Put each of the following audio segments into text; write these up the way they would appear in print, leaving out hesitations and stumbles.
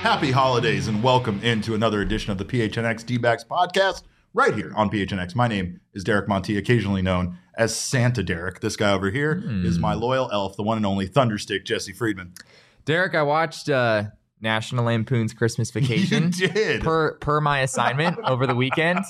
Happy holidays and welcome into another edition of the PHNX D-Backs podcast right here on PHNX. My name is Derek Monti, occasionally known as Santa Derek. This guy over here is my loyal elf, the one and only Thunderstick, Jesse Friedman. Derek, I watched National Lampoon's Christmas Vacation. You did. Per my assignment over the weekend.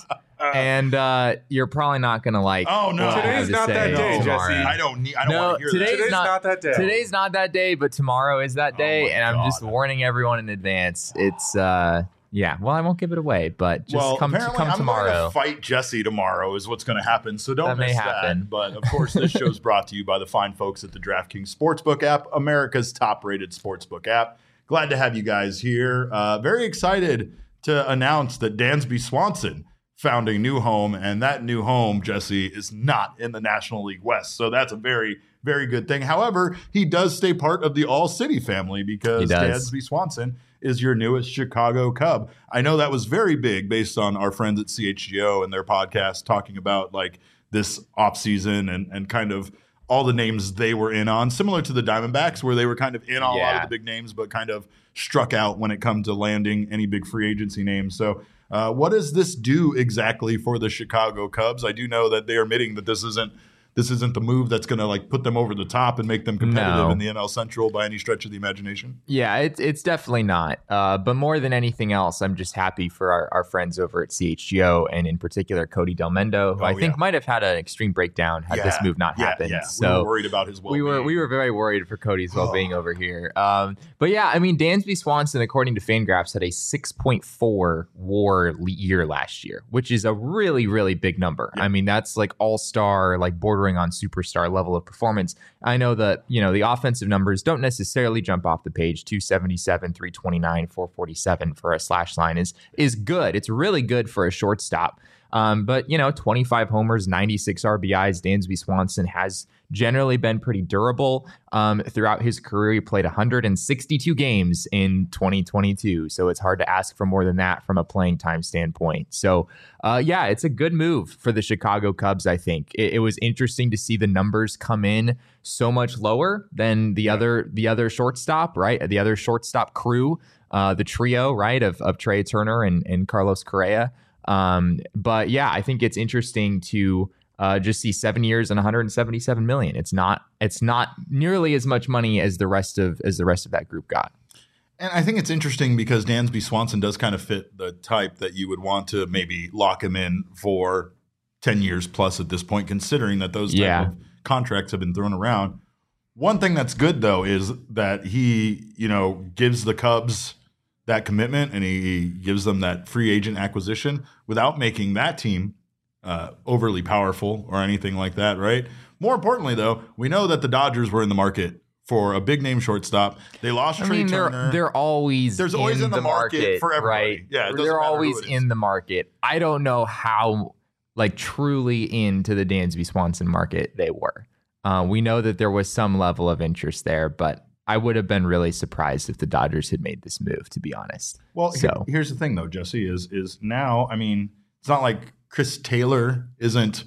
And you're probably not going to like. Oh, no. Today's not that day, Jesse. I don't want to hear that. Today's not that day. Today's not that day, but tomorrow is that day. And I'm just warning everyone in advance. It's, yeah. Well, I won't give it away, but just come tomorrow. I'm going to fight Jesse tomorrow is what's going to happen. So don't miss that. But, of course, this show's brought to you by the fine folks at the DraftKings Sportsbook app, America's top-rated sportsbook app. Glad to have you guys here. Very excited to announce that Dansby Swanson found a new home, and that new home, Jesse, is not in the National League West. So that's a very, very good thing. However, he does stay part of the All-City family because Dansby Swanson is your newest Chicago Cub. I know that was very big based on our friends at CHGO and their podcast talking about like this offseason and kind of all the names they were in on, similar to the Diamondbacks where they were kind of in on a lot of the big names, but kind of struck out when it comes to landing any big free agency names. So what does this do exactly for the Chicago Cubs? I do know that they are admitting that this isn't the move that's going to like put them over the top and make them competitive in the NL Central by any stretch of the imagination. Yeah, it's definitely not. But more than anything else, I'm just happy for our friends over at CHGO and in particular Cody Del Mendo, who I think might have had an extreme breakdown had this move not happened. Yeah. So we were worried about his well-being. We were very worried for Cody's well-being over here. But yeah, I mean, Dansby Swanson, according to Fangraphs, had a 6.4 WAR year last year, which is a really, really big number. Yeah. I mean, that's like all-star, like bordering on superstar level of performance. I know that, the offensive numbers don't necessarily jump off the page. 277, 329, 447 for a slash line is good. It's really good for a shortstop. But 25 homers, 96 RBIs. Dansby Swanson has generally been pretty durable throughout his career. He played 162 games in 2022, so it's hard to ask for more than that from a playing time standpoint. So, it's a good move for the Chicago Cubs. I think it was interesting to see the numbers come in so much lower than the other shortstop, right? The other shortstop crew, the trio, right, of Trey Turner and Carlos Correa. But yeah, I think it's interesting to just see 7 years and 177 million. It's not nearly as much money as the rest of that group got. And I think it's interesting because Dansby Swanson does kind of fit the type that you would want to maybe lock him in for 10 years plus at this point, considering that those type of contracts have been thrown around. One thing that's good though is that he, gives the Cubs that commitment and he gives them that free agent acquisition without making that team overly powerful or anything like that, right? More importantly, though, we know that the Dodgers were in the market for a big name shortstop. They lost Trey Turner. They're always There's always in the market for everybody. Right? Yeah, they're always in the market. I don't know how truly into the Dansby Swanson market they were. We know that there was some level of interest there, but I would have been really surprised if the Dodgers had made this move, to be honest. Well, here's the thing, though, Jesse, is now, I mean, it's not like Chris Taylor isn't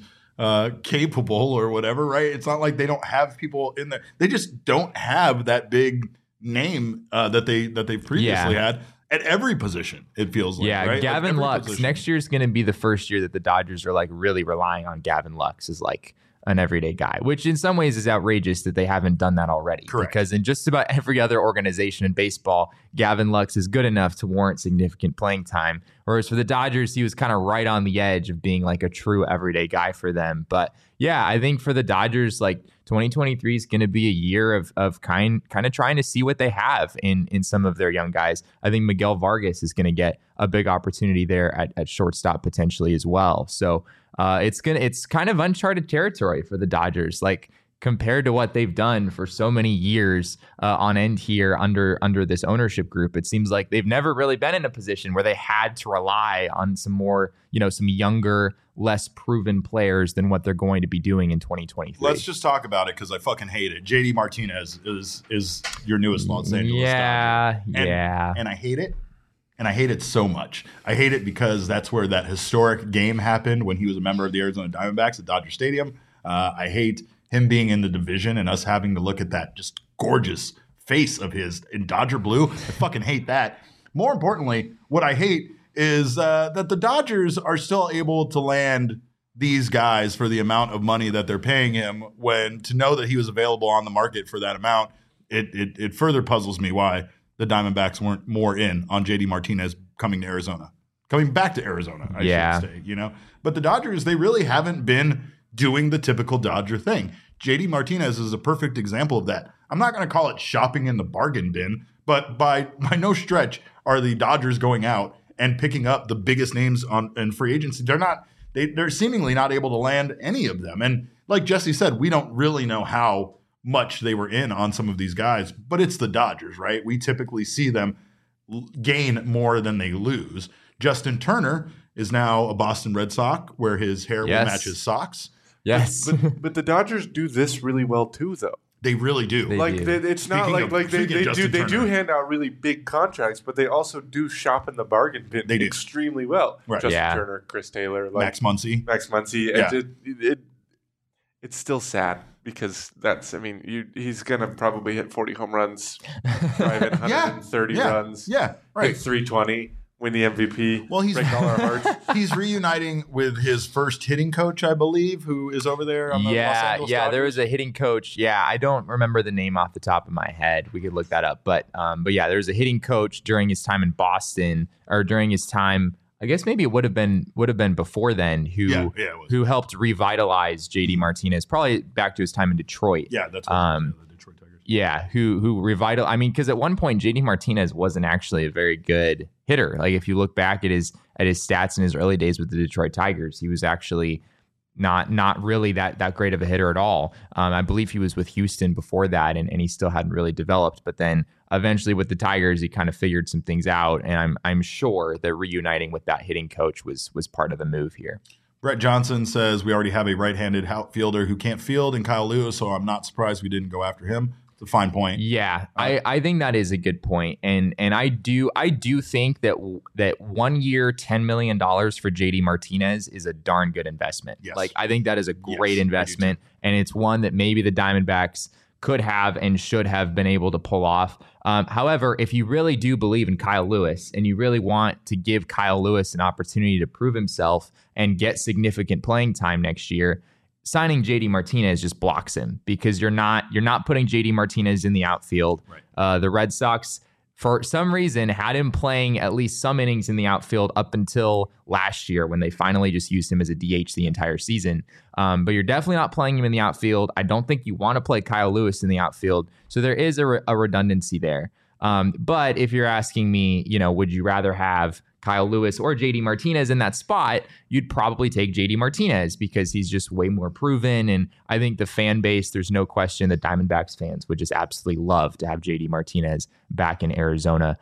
capable or whatever, right? It's not like they don't have people in there. They just don't have that big name that they previously had at every position, it feels like. Yeah, right? Gavin Lux. Next year is going to be the first year that the Dodgers are really relying on Gavin Lux as an everyday guy, which in some ways is outrageous that they haven't done that already. Correct. Because in just about every other organization in baseball, Gavin Lux is good enough to warrant significant playing time. Whereas for the Dodgers, he was kind of right on the edge of being a true everyday guy for them. But yeah, I think for the Dodgers, 2023 is going to be a year of kind of trying to see what they have in some of their young guys. I think Miguel Vargas is going to get a big opportunity there at shortstop potentially as well. So it's kind of uncharted territory for the Dodgers, compared to what they've done for so many years on end here under this ownership group. It seems like they've never really been in a position where they had to rely on some more, some younger, less proven players than what they're going to be doing in 2023. Let's just talk about it because I fucking hate it. JD Martinez is your newest Los Angeles Dodger. And I hate it. And I hate it so much. I hate it because that's where that historic game happened when he was a member of the Arizona Diamondbacks at Dodger Stadium. I hate him being in the division and us having to look at that just gorgeous face of his in Dodger blue. I fucking hate that. More importantly, what I hate is that the Dodgers are still able to land these guys for the amount of money that they're paying him, when to know that he was available on the market for that amount, it further puzzles me why the Diamondbacks weren't more in on JD Martinez coming back to Arizona, I should say, you know. But the Dodgers, they really haven't been doing the typical Dodger thing. JD Martinez is a perfect example of that. I'm not going to call it shopping in the bargain bin, but by no stretch are the Dodgers going out and picking up the biggest names in free agency. They're seemingly not able to land any of them. And like Jesse said, we don't really know how much they were in on some of these guys, but it's the Dodgers, right? We typically see them gain more than they lose. Justin Turner is now a Boston Red Sox, where his hair will match his socks. Yes. But the Dodgers do this really well too, though. They really do. It's not like they do hand out really big contracts, but they also do shop in the bargain bin extremely well. Right. Justin Turner, Chris Taylor, Max Muncy. Yeah. It's still sad because he's gonna probably hit 40 home runs, drive in 130 runs, hit 320. Win the MVP. Well, break all our hearts. He's reuniting with his first hitting coach, I believe, who is over there on the Los Angeles Dodgers. There was a hitting coach. Yeah, I don't remember the name off the top of my head. We could look that up. But yeah, there was a hitting coach during his time in Boston, or during his time. I guess maybe it would have been before then. Who helped revitalize JD Martinez? Probably back to his time in Detroit. Yeah, that's the Detroit Tigers. Yeah, who revitalized? I mean, because at one point JD Martinez wasn't actually a very good hitter. Like if you look back at his stats in his early days with the Detroit Tigers, he was actually not really that great of a hitter at all. I believe he was with Houston before that, and he still hadn't really developed. But then eventually with the Tigers, he kind of figured some things out, and I'm sure that reuniting with that hitting coach was part of the move here. Brett Johnson says we already have a right-handed outfielder who can't field in Kyle Lewis, so I'm not surprised we didn't go after him. A fine point. Yeah, I think that is a good point, and I do think that 1 year $10 million for JD Martinez is a darn good investment. Yes. Like I think that is a great investment, and it's one that maybe the Diamondbacks could have and should have been able to pull off. However, if you really do believe in Kyle Lewis and you really want to give Kyle Lewis an opportunity to prove himself and get significant playing time next year, signing JD Martinez just blocks him, because you're not putting JD Martinez in the outfield. Right. The Red Sox, for some reason, had him playing at least some innings in the outfield up until last year, when they finally just used him as a DH the entire season. But you're definitely not playing him in the outfield. I don't think you want to play Kyle Lewis in the outfield. So there is a redundancy there. But if you're asking me, would you rather have Kyle Lewis or JD Martinez in that spot, you'd probably take JD Martinez, because he's just way more proven. And I think the fan base, there's no question that Diamondbacks fans would just absolutely love to have JD Martinez back in Arizona.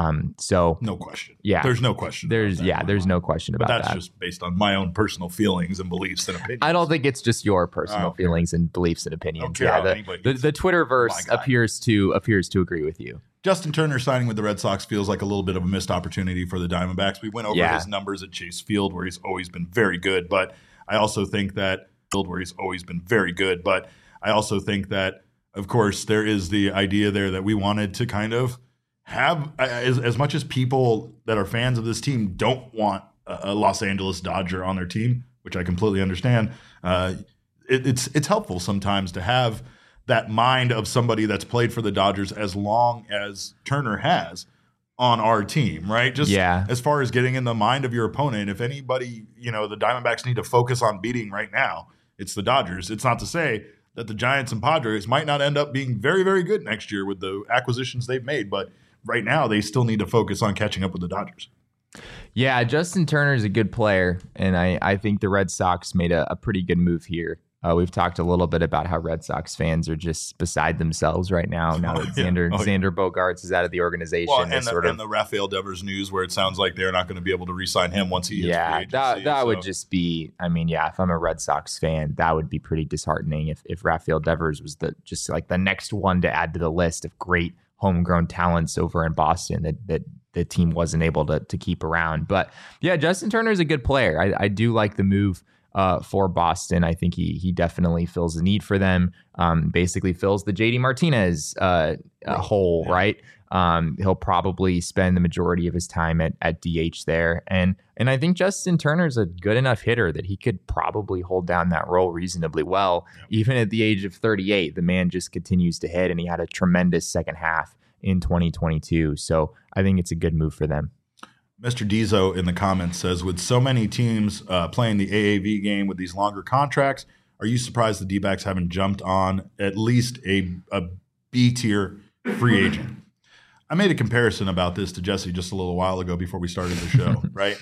So no question. Yeah. There's no question. There's no question about that. But that's just based on my own personal feelings and beliefs and opinions. I don't think it's just your personal feelings and beliefs and opinions. The Twitterverse appears to agree with you. Justin Turner signing with the Red Sox feels like a little bit of a missed opportunity for the Diamondbacks. We went over his numbers at Chase Field, where he's always been very good, but I also think that of course, there is the idea there that we wanted to kind of have, as much as people that are fans of this team don't want a Los Angeles Dodger on their team, which I completely understand, it's helpful sometimes to have that mind of somebody that's played for the Dodgers as long as Turner has on our team, right? Just as far as getting in the mind of your opponent, if anybody, the Diamondbacks need to focus on beating right now, it's the Dodgers. It's not to say that the Giants and Padres might not end up being very, very good next year with the acquisitions they've made, but right now they still need to focus on catching up with the Dodgers. Yeah, Justin Turner is a good player, and I think the Red Sox made a pretty good move here. We've talked a little bit about how Red Sox fans are just beside themselves right now. Now that Xander Bogaerts is out of the organization. Well, and the Rafael Devers news, where it sounds like they're not going to be able to re-sign him once he hits free agency. That would just be, if I'm a Red Sox fan, that would be pretty disheartening if Rafael Devers was the next one to add to the list of great homegrown talents over in Boston that the team wasn't able to keep around. But yeah, Justin Turner is a good player. I do like the move for Boston. I think he definitely fills the need for them. Basically fills the JD Martinez hole, right? He'll probably spend the majority of his time at DH there. And I think Justin Turner's a good enough hitter that he could probably hold down that role reasonably well. Yep. Even at the age of 38, the man just continues to hit, and he had a tremendous second half in 2022. So I think it's a good move for them. Mr. Dizo in the comments says, with so many teams playing the AAV game with these longer contracts, are you surprised the D-backs haven't jumped on at least a B-tier free agent? I made a comparison about this to Jesse just a little while ago before we started the show, right?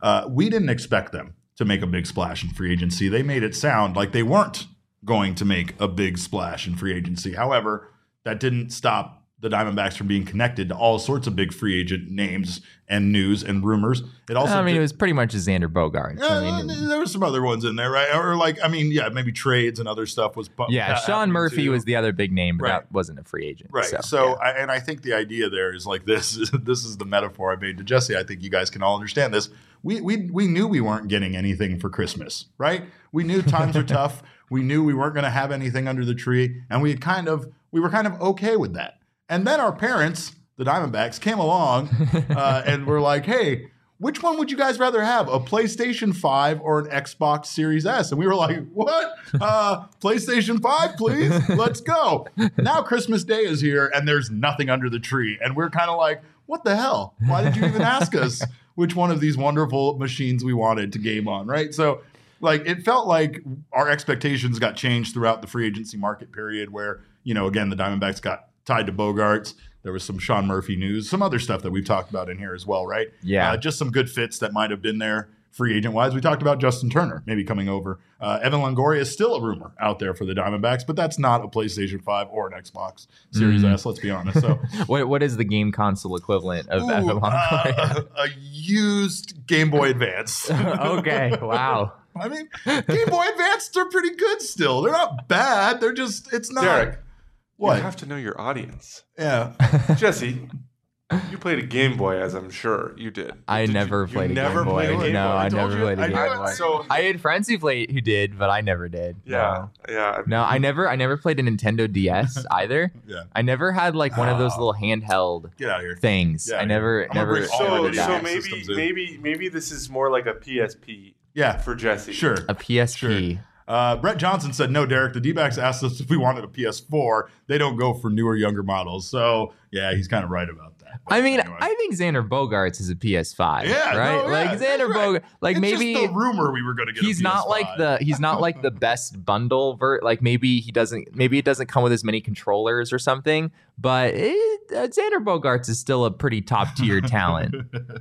We didn't expect them to make a big splash in free agency. They made it sound like they weren't going to make a big splash in free agency. However, that didn't stop the Diamondbacks from being connected to all sorts of big free agent names and news and rumors. It also, it was pretty much Xander Bogaerts. There were some other ones in there, right? Or maybe trades and other stuff was. Sean Murphy was the other big name, but that wasn't a free agent, right? So I think the idea there is like this. This is the metaphor I made to Jesse. I think you guys can all understand this. We knew we weren't getting anything for Christmas, right? We knew times were tough. We knew we weren't going to have anything under the tree, and we were kind of okay with that. And then our parents, the Diamondbacks, came along and were like, hey, which one would you guys rather have, a PlayStation 5 or an Xbox Series S? And we were like, what? PlayStation 5, please? Let's go. Now Christmas Day is here and there's nothing under the tree. And we're kind of like, what the hell? Why did you even ask us which one of these wonderful machines we wanted to game on, right? So it felt like our expectations got changed throughout the free agency market period where, again, the Diamondbacks got tied to Bogaerts. There was some Sean Murphy news, some other stuff that we've talked about in here as well, right? Yeah. Just some good fits that might have been there free agent-wise. We talked about Justin Turner maybe coming over. Evan Longoria is still a rumor out there for the Diamondbacks, but that's not a PlayStation 5 or an Xbox Series S, let's be honest. So, what is the game console equivalent of Evan Longoria? A used Game Boy Advance. Okay, wow. I mean, Game Boy Advances are pretty good still. They're not bad. They're just, it's not. Derek. What? You have to know your audience. Yeah. Jesse, you played a Game Boy, as I'm sure you did. I never played a Game Boy. No, I never played a Game Boy. So I had friends who did, but I never did. Yeah. No, I never played a Nintendo DS either. Yeah. I never had one of those little handheld things. Yeah, I never. So maybe this is more like a PSP. Yeah, for Jesse. Sure. A PSP. Sure. Brett Johnson said, no, Derek, the D-backs asked us if we wanted a PS4. They don't go for newer, younger models. So, yeah, he's kind of right about that. But anyway. I think Xander Bogaerts is a PS5. Yeah, right? Xander Bogaerts, it's maybe just the rumor we were going to get. He's not like the best bundle maybe it doesn't come with as many controllers or something, but Xander Bogaerts is still a pretty top tier talent.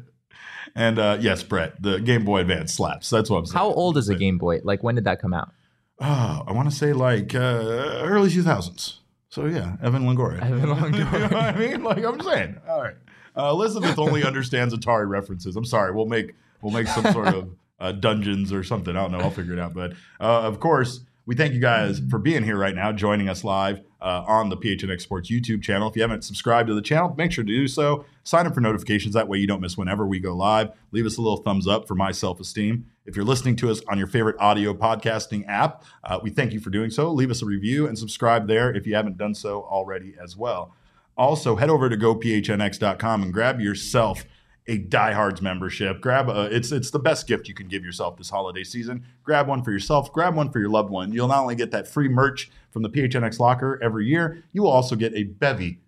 And yes, Brett, the Game Boy Advance slaps. That's what I'm saying. How old is a Game Boy? When did that come out? Oh, I want to say early 2000s. So yeah, Evan Longoria. You know what I mean? I'm saying. All right. Elizabeth only understands Atari references. I'm sorry. We'll make some sort of dungeons or something. I don't know. I'll figure it out. But of course, we thank you guys for being here right now, joining us live on the PHNX Sports YouTube channel. If you haven't subscribed to the channel, make sure to do so. Sign up for notifications. That way you don't miss whenever we go live. Leave us a little thumbs up for my self-esteem. If you're listening to us on your favorite audio podcasting app, we thank you for doing so. Leave us a review and subscribe there if you haven't done so already as well. Also, head over to gophnx.com and grab yourself a Diehards membership. It's the best gift you can give yourself this holiday season. Grab one for yourself, grab one for your loved one. You'll not only get that free merch from the PHNX locker every year, you will also get a bevy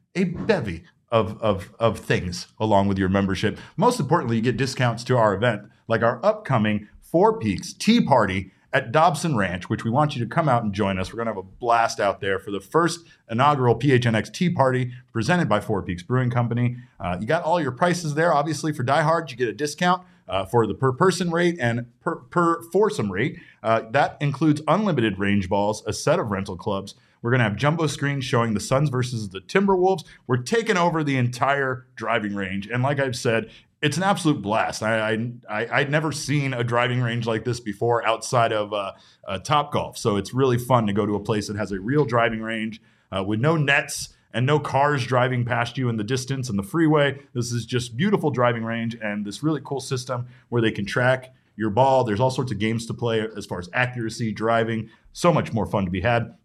of things along with your membership. Most importantly, you get discounts to our event, like our upcoming Four Peaks Tea Party at Dobson Ranch, which we want you to come out and join us. We're going to have a blast out there for the first inaugural PHNX Tea Party presented by Four Peaks Brewing Company. You got all your prices there. Obviously, for diehards, you get a discount for the per person rate and per foursome rate. That includes unlimited range balls, a set of rental clubs. We're going to have jumbo screens showing the Suns versus the Timberwolves. We're taking over the entire driving range. And like I've said, it's an absolute blast. I'd never seen a driving range like this before outside of Topgolf. So it's really fun to go to a place that has a real driving range with no nets and no cars driving past you in the distance and the freeway. This is just beautiful driving range and this really cool system where they can track your ball. There's all sorts of games to play as far as accuracy, driving, so much more fun to be had.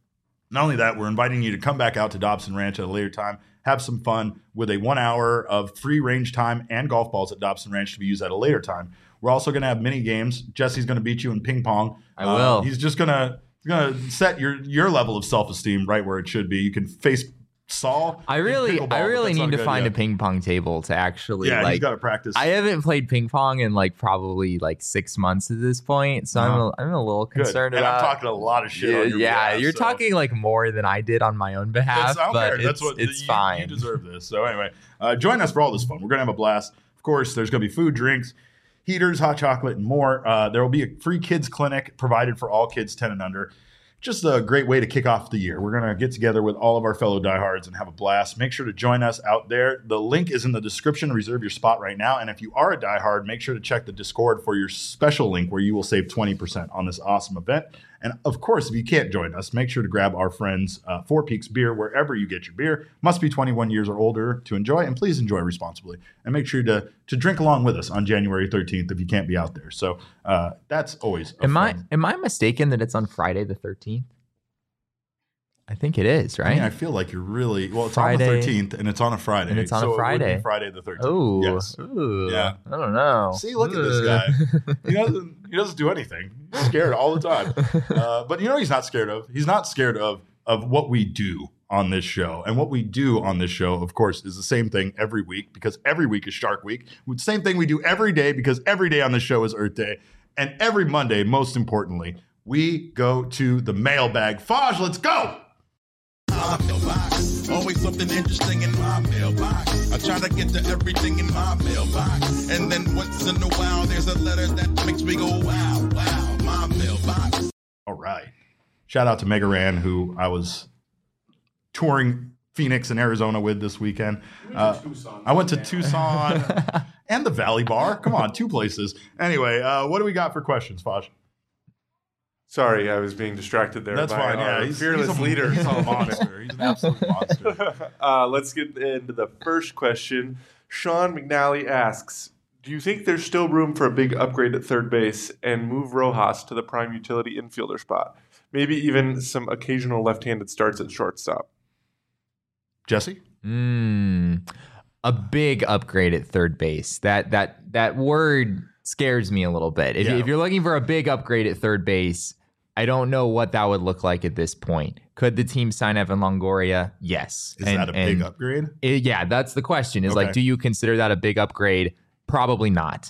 Not only that, we're inviting you to come back out to Dobson Ranch at a later time, have some fun with a 1 hour of free range time and golf balls at Dobson Ranch to be used at a later time. We're also going to have mini games. Jesse's going to beat you in ping pong. I will. He's just going to set your level of self-esteem right where it should be. You can face Saul. I really need to find a ping pong table to actually. Yeah, he's got to practice. I haven't played ping pong in probably 6 months at this point, so I'm a little concerned about. And I'm talking a lot of shit. On your behalf, you're talking more than I did on my own behalf. But it's fine. You deserve this. So anyway, join us for all this fun. We're gonna have a blast. Of course, there's gonna be food, drinks, heaters, hot chocolate, and more. There will be a free kids clinic provided for all kids 10 and under. Just a great way to kick off the year. We're going to get together with all of our fellow diehards and have a blast. Make sure to join us out there. The link is in the description. Reserve your spot right now. And if you are a diehard, make sure to check the Discord for your special link where you will save 20% on this awesome event. And of course, if you can't join us, make sure to grab our friends Four Peaks Beer wherever you get your beer. Must be 21 years or older to enjoy, and please enjoy responsibly. And make sure to drink along with us on January 13th if you can't be out there. So that's always Am I mistaken that it's on Friday the 13th? I think it is, right? I feel like you're really it's Friday, on the 13th, and it's on a Friday. And it's on a Friday. It would be Friday the 13th. Oh, yes. Yeah. I don't know. See, look at this guy. He doesn't do anything. He's scared all the time. But he's not scared of. He's not scared of what we do on this show. And what we do on this show, of course, is the same thing every week, because every week is Shark Week. The same thing we do every day, because every day on the show is Earth Day. And every Monday, most importantly, we go to the mailbag. Faj, let's go! My mailbox. Always something interesting in my mailbox. I try to get to everything in my mailbox. And then once in a while, there's a letter that makes me go, wow, wow, my mailbox. All right. Shout out to Mega Ran, who I was touring Phoenix and Arizona with this weekend. I went to Tucson and the Valley Bar. Come on, 2 places. Anyway, what do we got for questions, Faj? Sorry, I was being distracted there. That's fine. Yeah, he's fearless leader. He's a monster. He's an absolute monster. Let's get into the first question. Sean McNally asks, do you think there's still room for a big upgrade at third base and move Rojas to the prime utility infielder spot? Maybe even some occasional left-handed starts at shortstop. Jesse? A big upgrade at third base. That word scares me a little bit. If you're looking for a big upgrade at third base, I don't know what that would look like at this point. Could the team sign Evan Longoria? Yes. Is that a big upgrade? That's the question. Do you consider that a big upgrade? Probably not.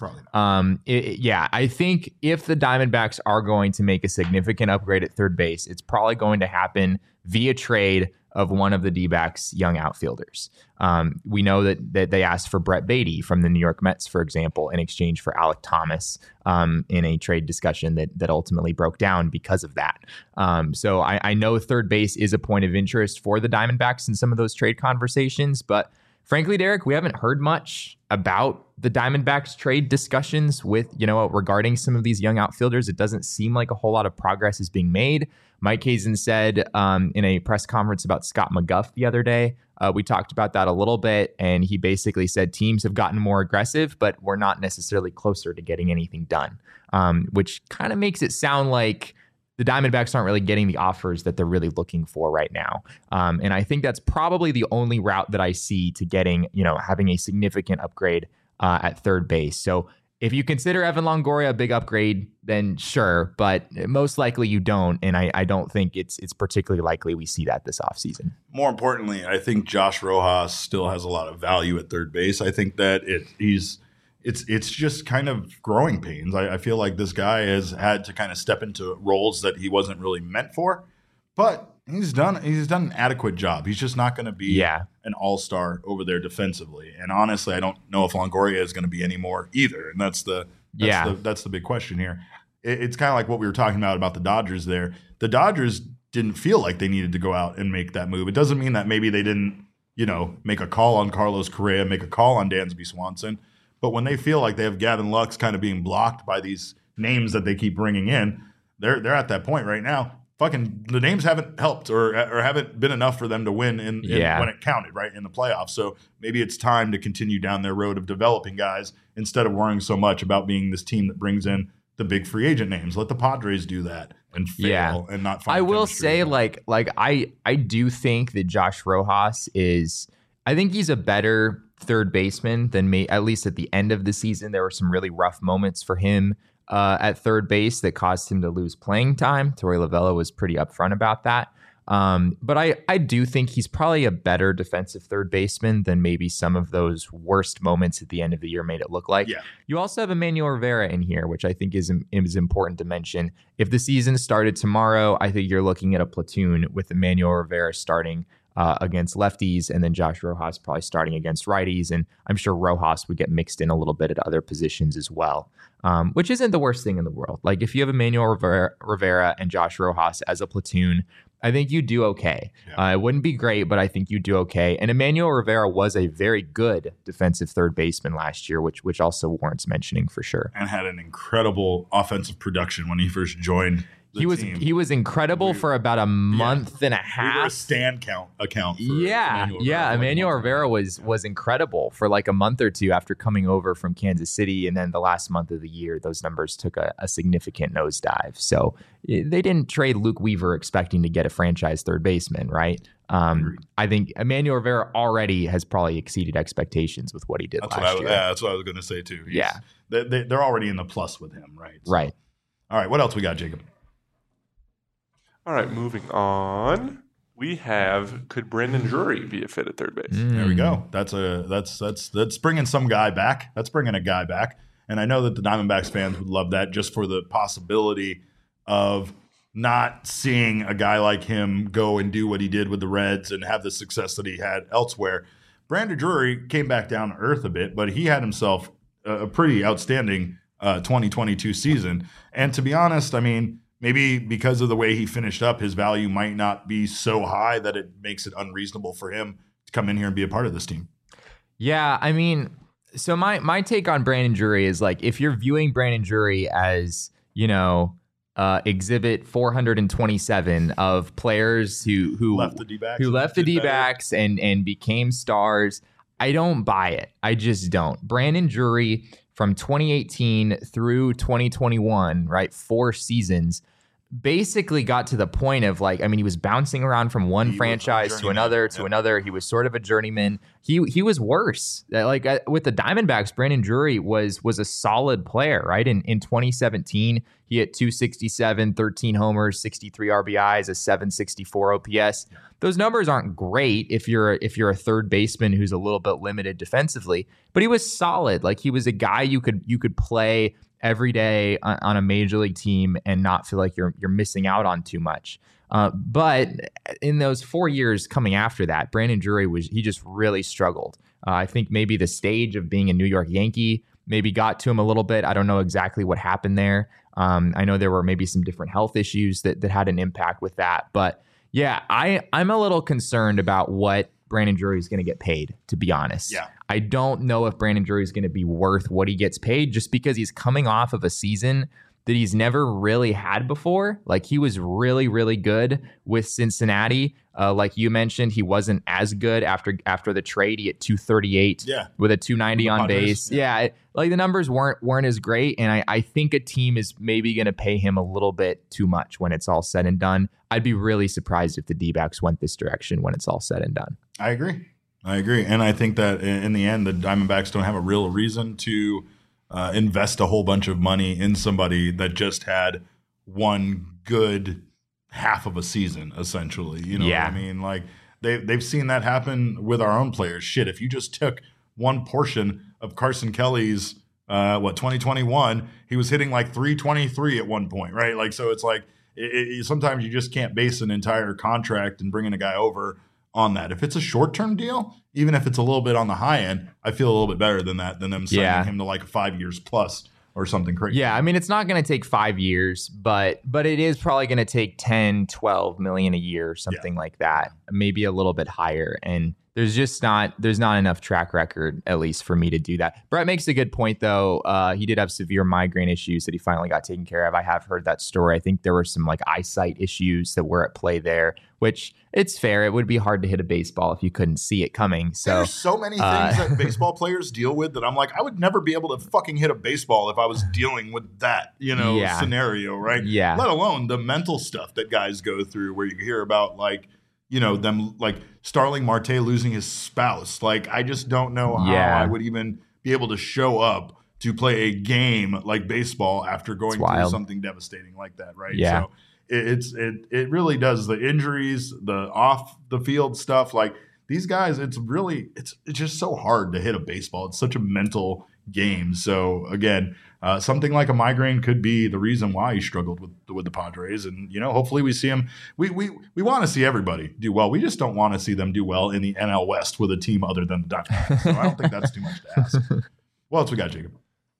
I think if the Diamondbacks are going to make a significant upgrade at third base, it's probably going to happen via trade of one of the D-backs' young outfielders. We know that they asked for Brett Beatty from the New York Mets, for example, in exchange for Alek Thomas in a trade discussion that ultimately broke down because of that. So I know third base is a point of interest for the Diamondbacks in some of those trade conversations, but frankly, Derek, we haven't heard much about the Diamondbacks trade discussions with, regarding some of these young outfielders. It doesn't seem like a whole lot of progress is being made. Mike Hazen said in a press conference about Scott McGough the other day, we talked about that a little bit, and he basically said teams have gotten more aggressive, but we're not necessarily closer to getting anything done, which kind of makes it sound like the Diamondbacks aren't really getting the offers that they're really looking for right now. And I think that's probably the only route that I see to getting, having a significant upgrade at third base. So if you consider Evan Longoria a big upgrade, then sure, but most likely you don't. And I don't think it's particularly likely we see that this offseason. More importantly, I think Josh Rojas still has a lot of value at third base. I think that it's just kind of growing pains. I feel like this guy has had to kind of step into roles that he wasn't really meant for, but he's done an adequate job. He's just not going to be an all-star over there defensively. And honestly, I don't know if Longoria is going to be anymore either. And that's the big question here. It's kind of like what we were talking about the Dodgers there. The Dodgers didn't feel like they needed to go out and make that move. It doesn't mean that maybe they didn't, make a call on Carlos Correa, make a call on Dansby Swanson. But when they feel like they have Gavin Lux kind of being blocked by these names that they keep bringing in, they're at that point right now. Fucking the names haven't helped or haven't been enough for them to win when it counted, right, in the playoffs. So maybe it's time to continue down their road of developing guys instead of worrying so much about being this team that brings in the big free agent names. Let the Padres do that. and fail and not find I will say, I do think that Josh Rojas I think he's a better third baseman than me. At least at the end of the season, there were some really rough moments for him at third base that caused him to lose playing time. Torey Lovullo was pretty upfront about that. But I do think he's probably a better defensive third baseman than maybe some of those worst moments at the end of the year made it look like. Yeah. You also have Emmanuel Rivera in here, which I think is important to mention. If the season started tomorrow, I think you're looking at a platoon with Emmanuel Rivera starting against lefties, and then Josh Rojas probably starting against righties. And I'm sure Rojas would get mixed in a little bit at other positions as well, which isn't the worst thing in the world. Like if you have Emmanuel Rivera and Josh Rojas as a platoon, I think you do okay. Yeah. It wouldn't be great, but I think you do okay. And Emmanuel Rivera was a very good defensive third baseman last year, which also warrants mentioning for sure. And had an incredible offensive production when he first joined the team. He was incredible for about a month and a half. We were a stand account for Emmanuel Rivera was incredible for like a month or two after coming over from Kansas City, and then the last month of the year, those numbers took a significant nosedive. So they didn't trade Luke Weaver expecting to get a franchise third baseman, right? I think Emmanuel Rivera already has probably exceeded expectations with what he did last year. Yeah, that's what I was going to say too. They're already in the plus with him, right? So. Right. All right, what else we got, Jacob? All right, moving on. We have, could Brandon Drury be a fit at third base? There we go. That's bringing some guy back. That's bringing a guy back. And I know that the Diamondbacks fans would love that just for the possibility of not seeing a guy like him go and do what he did with the Reds and have the success that he had elsewhere. Brandon Drury came back down to earth a bit, but he had himself a pretty outstanding 2022 season. And to be honest, I mean, maybe because of the way he finished up, his value might not be so high that it makes it unreasonable for him to come in here and be a part of this team. Yeah, I mean, so my take on Brandon Drury is like, if you're viewing Brandon Drury as, exhibit 427 of players who left the D-backs, and became stars, I don't buy it. I just don't. Brandon Drury from 2018 through 2021, right, 4 seasons, basically got to the point of like, I mean, he was bouncing around from one franchise to another. He was sort of a journeyman. He was worse. Like with the Diamondbacks, Brandon Drury was a solid player, right? In 2017, he hit 267, 13 homers, 63 RBIs, a 764 OPS. Those numbers aren't great if you're a third baseman who's a little bit limited defensively, but he was solid. Like he was a guy you could play every day on a major league team and not feel like you're missing out on too much. But in those 4 years coming after that, Brandon Drury he just really struggled. I think maybe the stage of being a New York Yankee maybe got to him a little bit. I don't know exactly what happened there. I know there were maybe some different health issues that had an impact with that. But yeah, I'm a little concerned about what Brandon Drury is going to get paid, to be honest. Yeah. I don't know if Brandon Drury is going to be worth what he gets paid just because he's coming off of a season that he's never really had before. Like he was really, really good with Cincinnati. Like you mentioned, he wasn't as good after the trade. He hit 238 with a 290 on base. Yeah. Like the numbers weren't as great. And I think a team is maybe going to pay him a little bit too much when it's all said and done. I'd be really surprised if the D-backs went this direction when it's all said and done. I agree. And I think that in the end, the Diamondbacks don't have a real reason to invest a whole bunch of money in somebody that just had one good half of a season, essentially. You know what I mean? Like they've seen that happen with our own players. Shit, if you just took one portion of Carson Kelly's 2021, he was hitting like 323 at one point, right? Like, so it's like sometimes you just can't base an entire contract and bringing a guy over on that. If it's a short-term deal, even if it's a little bit on the high end, I feel a little bit better than them signing him to like 5 years plus or something crazy. Yeah, I mean, it's not going to take 5 years, but it is probably going to take 10, 12 million a year, something like that, maybe a little bit higher. And there's not enough track record, at least for me to do that. Brett makes a good point, though. He did have severe migraine issues that he finally got taken care of. I have heard that story. I think there were some like eyesight issues that were at play there, which it's fair. It would be hard to hit a baseball if you couldn't see it coming. So there's so many things that baseball players deal with that I'm like, I would never be able to fucking hit a baseball if I was dealing with that, scenario, right? Yeah. Let alone the mental stuff that guys go through where you hear about like, them like Starling Marte losing his spouse. Like, I just don't know how I would even be able to show up to play a game like baseball after going through something devastating like that, right? Yeah. So it really does. The injuries, the off the field stuff, like these guys, it's just so hard to hit a baseball. It's such a mental game. So again, something like a migraine could be the reason why he struggled with the Padres. And hopefully we see him. We want to see everybody do well. We just don't want to see them do well in the NL West with a team other than the Diamondbacks. So I don't think that's too much to ask. What else we got, Jacob?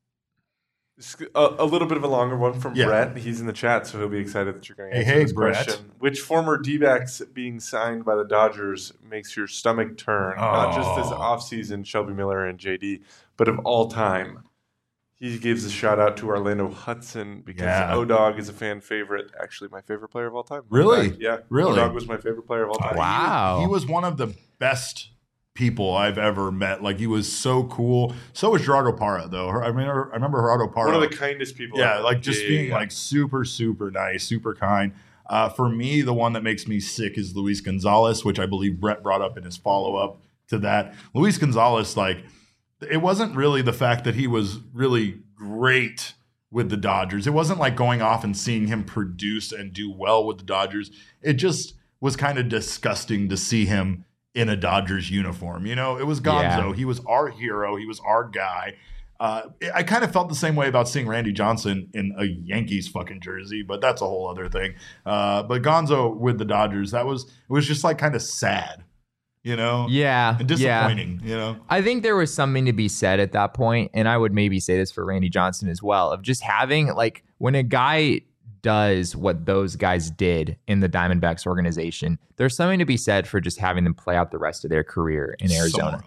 A little bit of a longer one from Brett. He's in the chat, so he'll be excited that you're going to answer this question. Which former D-backs being signed by the Dodgers makes your stomach turn? Not just this offseason, Shelby Miller and JD, but of all time. He gives a shout out to Orlando Hudson because O-Dog is a fan favorite. Actually, my favorite player of all time. Really? Yeah. Really? O-Dog was my favorite player of all time. Wow. He was one of the best people I've ever met. Like, he was so cool. So was Gerardo Parra, though. I remember Gerardo Parra. One of the kindest people. Yeah, like just being like super, super nice, super kind. For me, the one that makes me sick is Luis Gonzalez, which I believe Brett brought up in his follow-up to that. Luis Gonzalez, like, it wasn't really the fact that he was really great with the Dodgers. It wasn't like going off and seeing him produce and do well with the Dodgers. It just was kind of disgusting to see him in a Dodgers uniform. It was Gonzo. Yeah. He was our hero. He was our guy. I kind of felt the same way about seeing Randy Johnson in a Yankees fucking jersey, but that's a whole other thing. But Gonzo with the Dodgers, it was just like kind of sad. Yeah. And disappointing, I think there was something to be said at that point, and I would maybe say this for Randy Johnson as well, of just having, like, when a guy does what those guys did in the Diamondbacks organization, there's something to be said for just having them play out the rest of their career in Arizona.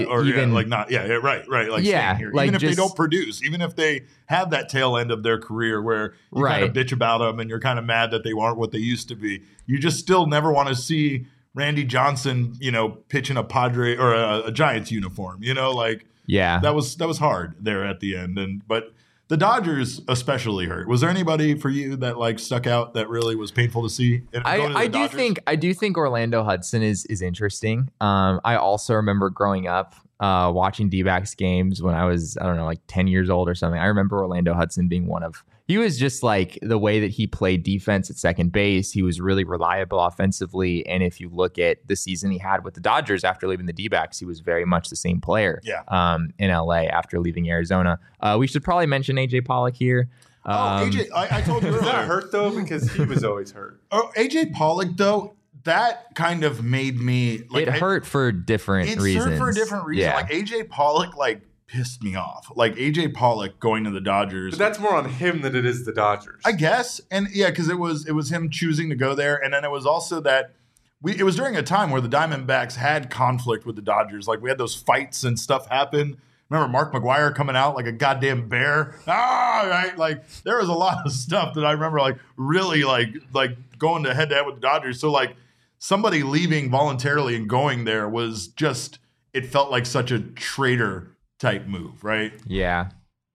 Right. Like, staying here. Like, even if they don't produce, even if they have that tail end of their career where you kind of bitch about them and you're kind of mad that they aren't what they used to be, you just still never want to see Randy Johnson, pitching a Padre or a Giants uniform, that was hard there at the end. But the Dodgers especially hurt. Was there anybody for you that like stuck out that really was painful to see? I do think Orlando Hudson is interesting. I also remember growing up watching D-backs games when I was, I don't know, like 10 years old or something. I remember Orlando Hudson being he was just like the way that he played defense at second base. He was really reliable offensively. And if you look at the season he had with the Dodgers after leaving the D-backs, he was very much the same player in LA after leaving Arizona. We should probably mention AJ Pollock here. AJ, I told you earlier. Does that hurt though? Because he was always hurt. AJ Pollock, though, that kind of made me like, it hurt for different reasons. It hurt for a different reason. Yeah. Like AJ Pollock, like, pissed me off. Like AJ Pollock going to the Dodgers. But that's more on him than it is the Dodgers, I guess. And yeah, because it was him choosing to go there, and then it was also that it was during a time where the Diamondbacks had conflict with the Dodgers. Like, we had those fights and stuff happen. Remember Mark McGwire coming out like a goddamn bear? Right? Like, there was a lot of stuff that I remember, like, really like going to head-to-head with the Dodgers. So, like, somebody leaving voluntarily and going there was just, it felt like such a traitor type move, right? Yeah.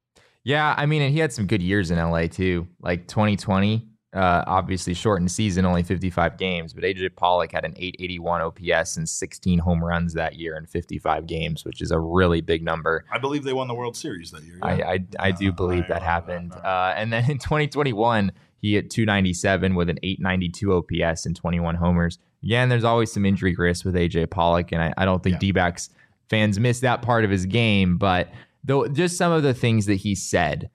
I mean, and he had some good years in LA too. Like 2020, obviously shortened season, only 55 games, but AJ Pollock had an 881 OPS and 16 home runs that year in 55 games, which is a really big number. I believe they won the World Series that year. Yeah? I do believe that happened. And then in 2021, he hit 297 with an 892 OPS and 21 homers. Again, there's always some injury risk with AJ Pollock, and I don't think D-backs fans miss that part of his game, but though just some of the things that he said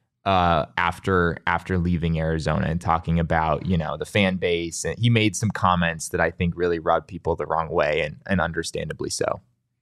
after leaving Arizona and talking about, the fan base, and he made some comments that I think really rubbed people the wrong way, and understandably so.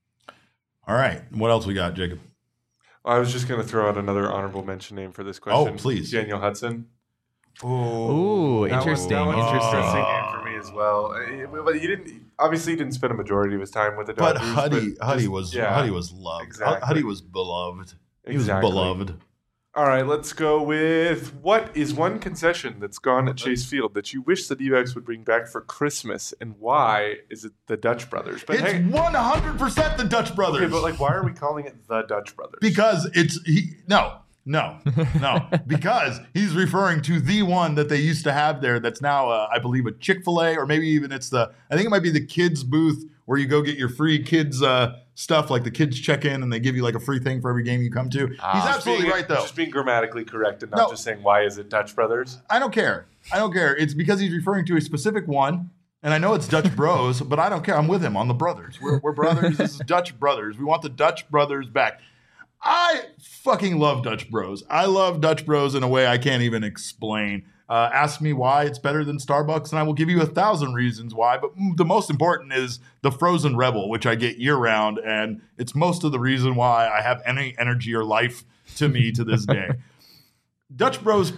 All right, what else we got, Jacob? I was just going to throw out another honorable mention name for this question. Oh, please. Daniel Hudson. Ooh, interesting. That one's interesting. interesting game for me as well. But he didn't spend a majority of his time with the Dodgers. But Huddy was loved. Exactly. Huddy was beloved. He was Exactly. beloved. All right, let's go with what is one concession that's gone at Chase Field that you wish the D-backs would bring back for Christmas, and why is it the Dutch Brothers? It's 100% the Dutch Brothers. Okay, but why are we calling it the Dutch Brothers? Because no, because he's referring to the one that they used to have there that's now, I believe, a Chick-fil-A, or maybe even I think it might be the kids booth where you go get your free kids stuff, like the kids check in and they give you like a free thing for every game you come to. He's absolutely right, though. Just being grammatically correct and not just saying, why is it Dutch Brothers? I don't care. It's because he's referring to a specific one. And I know it's Dutch Bros, but I don't care. I'm with him on the brothers. We're brothers. This is Dutch Brothers. We want the Dutch Brothers back. I fucking love Dutch Bros. I love Dutch Bros in a way I can't even explain. Ask me why it's better than Starbucks, and I will give you 1,000 reasons why. But the most important is the Frozen Rebel, which I get year-round, and it's most of the reason why I have any energy or life to me to this day. Dutch Bros,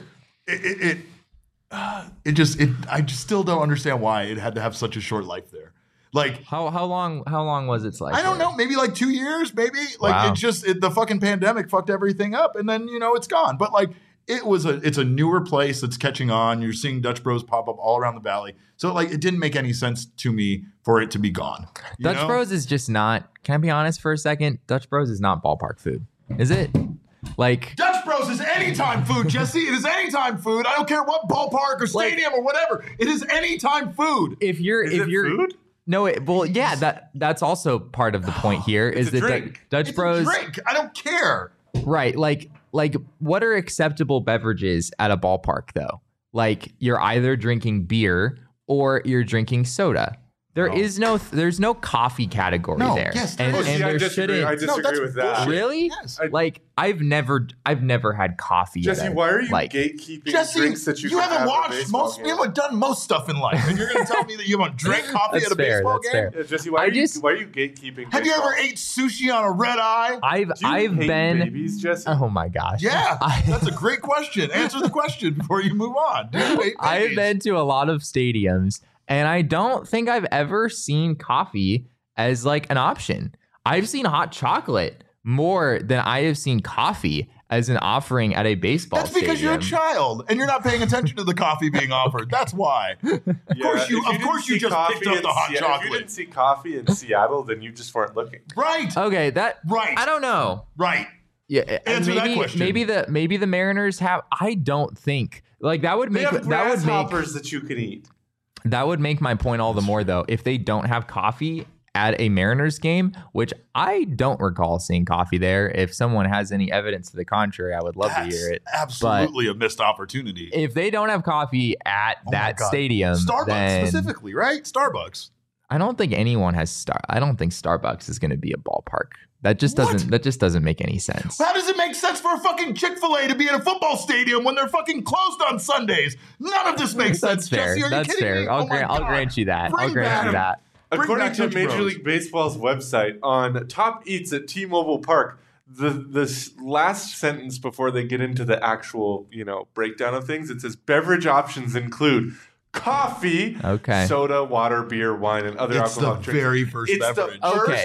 I just still don't understand why it had to have such a short life there. Like how long was its life? I don't know, maybe like 2 years, maybe. Like wow. The fucking pandemic fucked everything up, and then it's gone. But like it's a newer place that's catching on. You're seeing Dutch Bros pop up all around the valley. So like it didn't make any sense to me for it to be gone. Dutch Bros is just not. Can I be honest for a second? Dutch Bros is not ballpark food, is it? Like Dutch Bros is anytime food, Jesse. It is anytime food. I don't care what ballpark or stadium or whatever. It is anytime food. If you're food? No, that's also part of the point here. It's is that Dutch Bros drink. I don't care. Right, like what are acceptable beverages at a ballpark though? Like you're either drinking beer or you're drinking soda. There's no coffee category there. Yes, and I disagree with that. Really? Yes. Like I've never had coffee. Jesse, why are you gatekeeping drinks that you haven't watched most? You haven't done most stuff in life, and you're going to tell me that you haven't drank coffee at a baseball game? Yeah, Jesse, why are you gatekeeping? Have you ever ate sushi on a red eye? I've been babies, Jesse? Oh my gosh. Yeah, that's a great question. Answer the question before you move on. I've been to a lot of stadiums. And I don't think I've ever seen coffee as like an option. I've seen hot chocolate more than I have seen coffee as an offering at a baseball stadium. That's because you're a child and you're not paying attention to the coffee being offered. That's why. Of course you just picked up the hot chocolate. If you didn't see coffee in Seattle, then you just weren't looking. Right. Okay, right. I don't know. Right. Yeah, answer that question. Maybe the Mariners have. I don't think like that would make grasshoppers that you can eat. That would make my point all the more, though, if they don't have coffee at a Mariners game, which I don't recall seeing coffee there. If someone has any evidence to the contrary, I would love to hear it. Absolutely a missed opportunity. If they don't have coffee at that stadium, Starbucks specifically, right? Starbucks. I don't think anyone has I don't think Starbucks is going to be a ballpark. That just doesn't make any sense. How does it make sense for a fucking Chick-fil-A to be in a football stadium when they're fucking closed on Sundays? None of this makes sense. Fair. Jesse, are That's you kidding fair. me? I'll grant you that. Bring I'll grant you that. According to Major League Baseball's website, on Top Eats at T-Mobile Park, the last sentence before they get into the actual breakdown of things, it says beverage options include coffee, soda, water, beer, wine, and other alcoholic drinks. Very first beverage.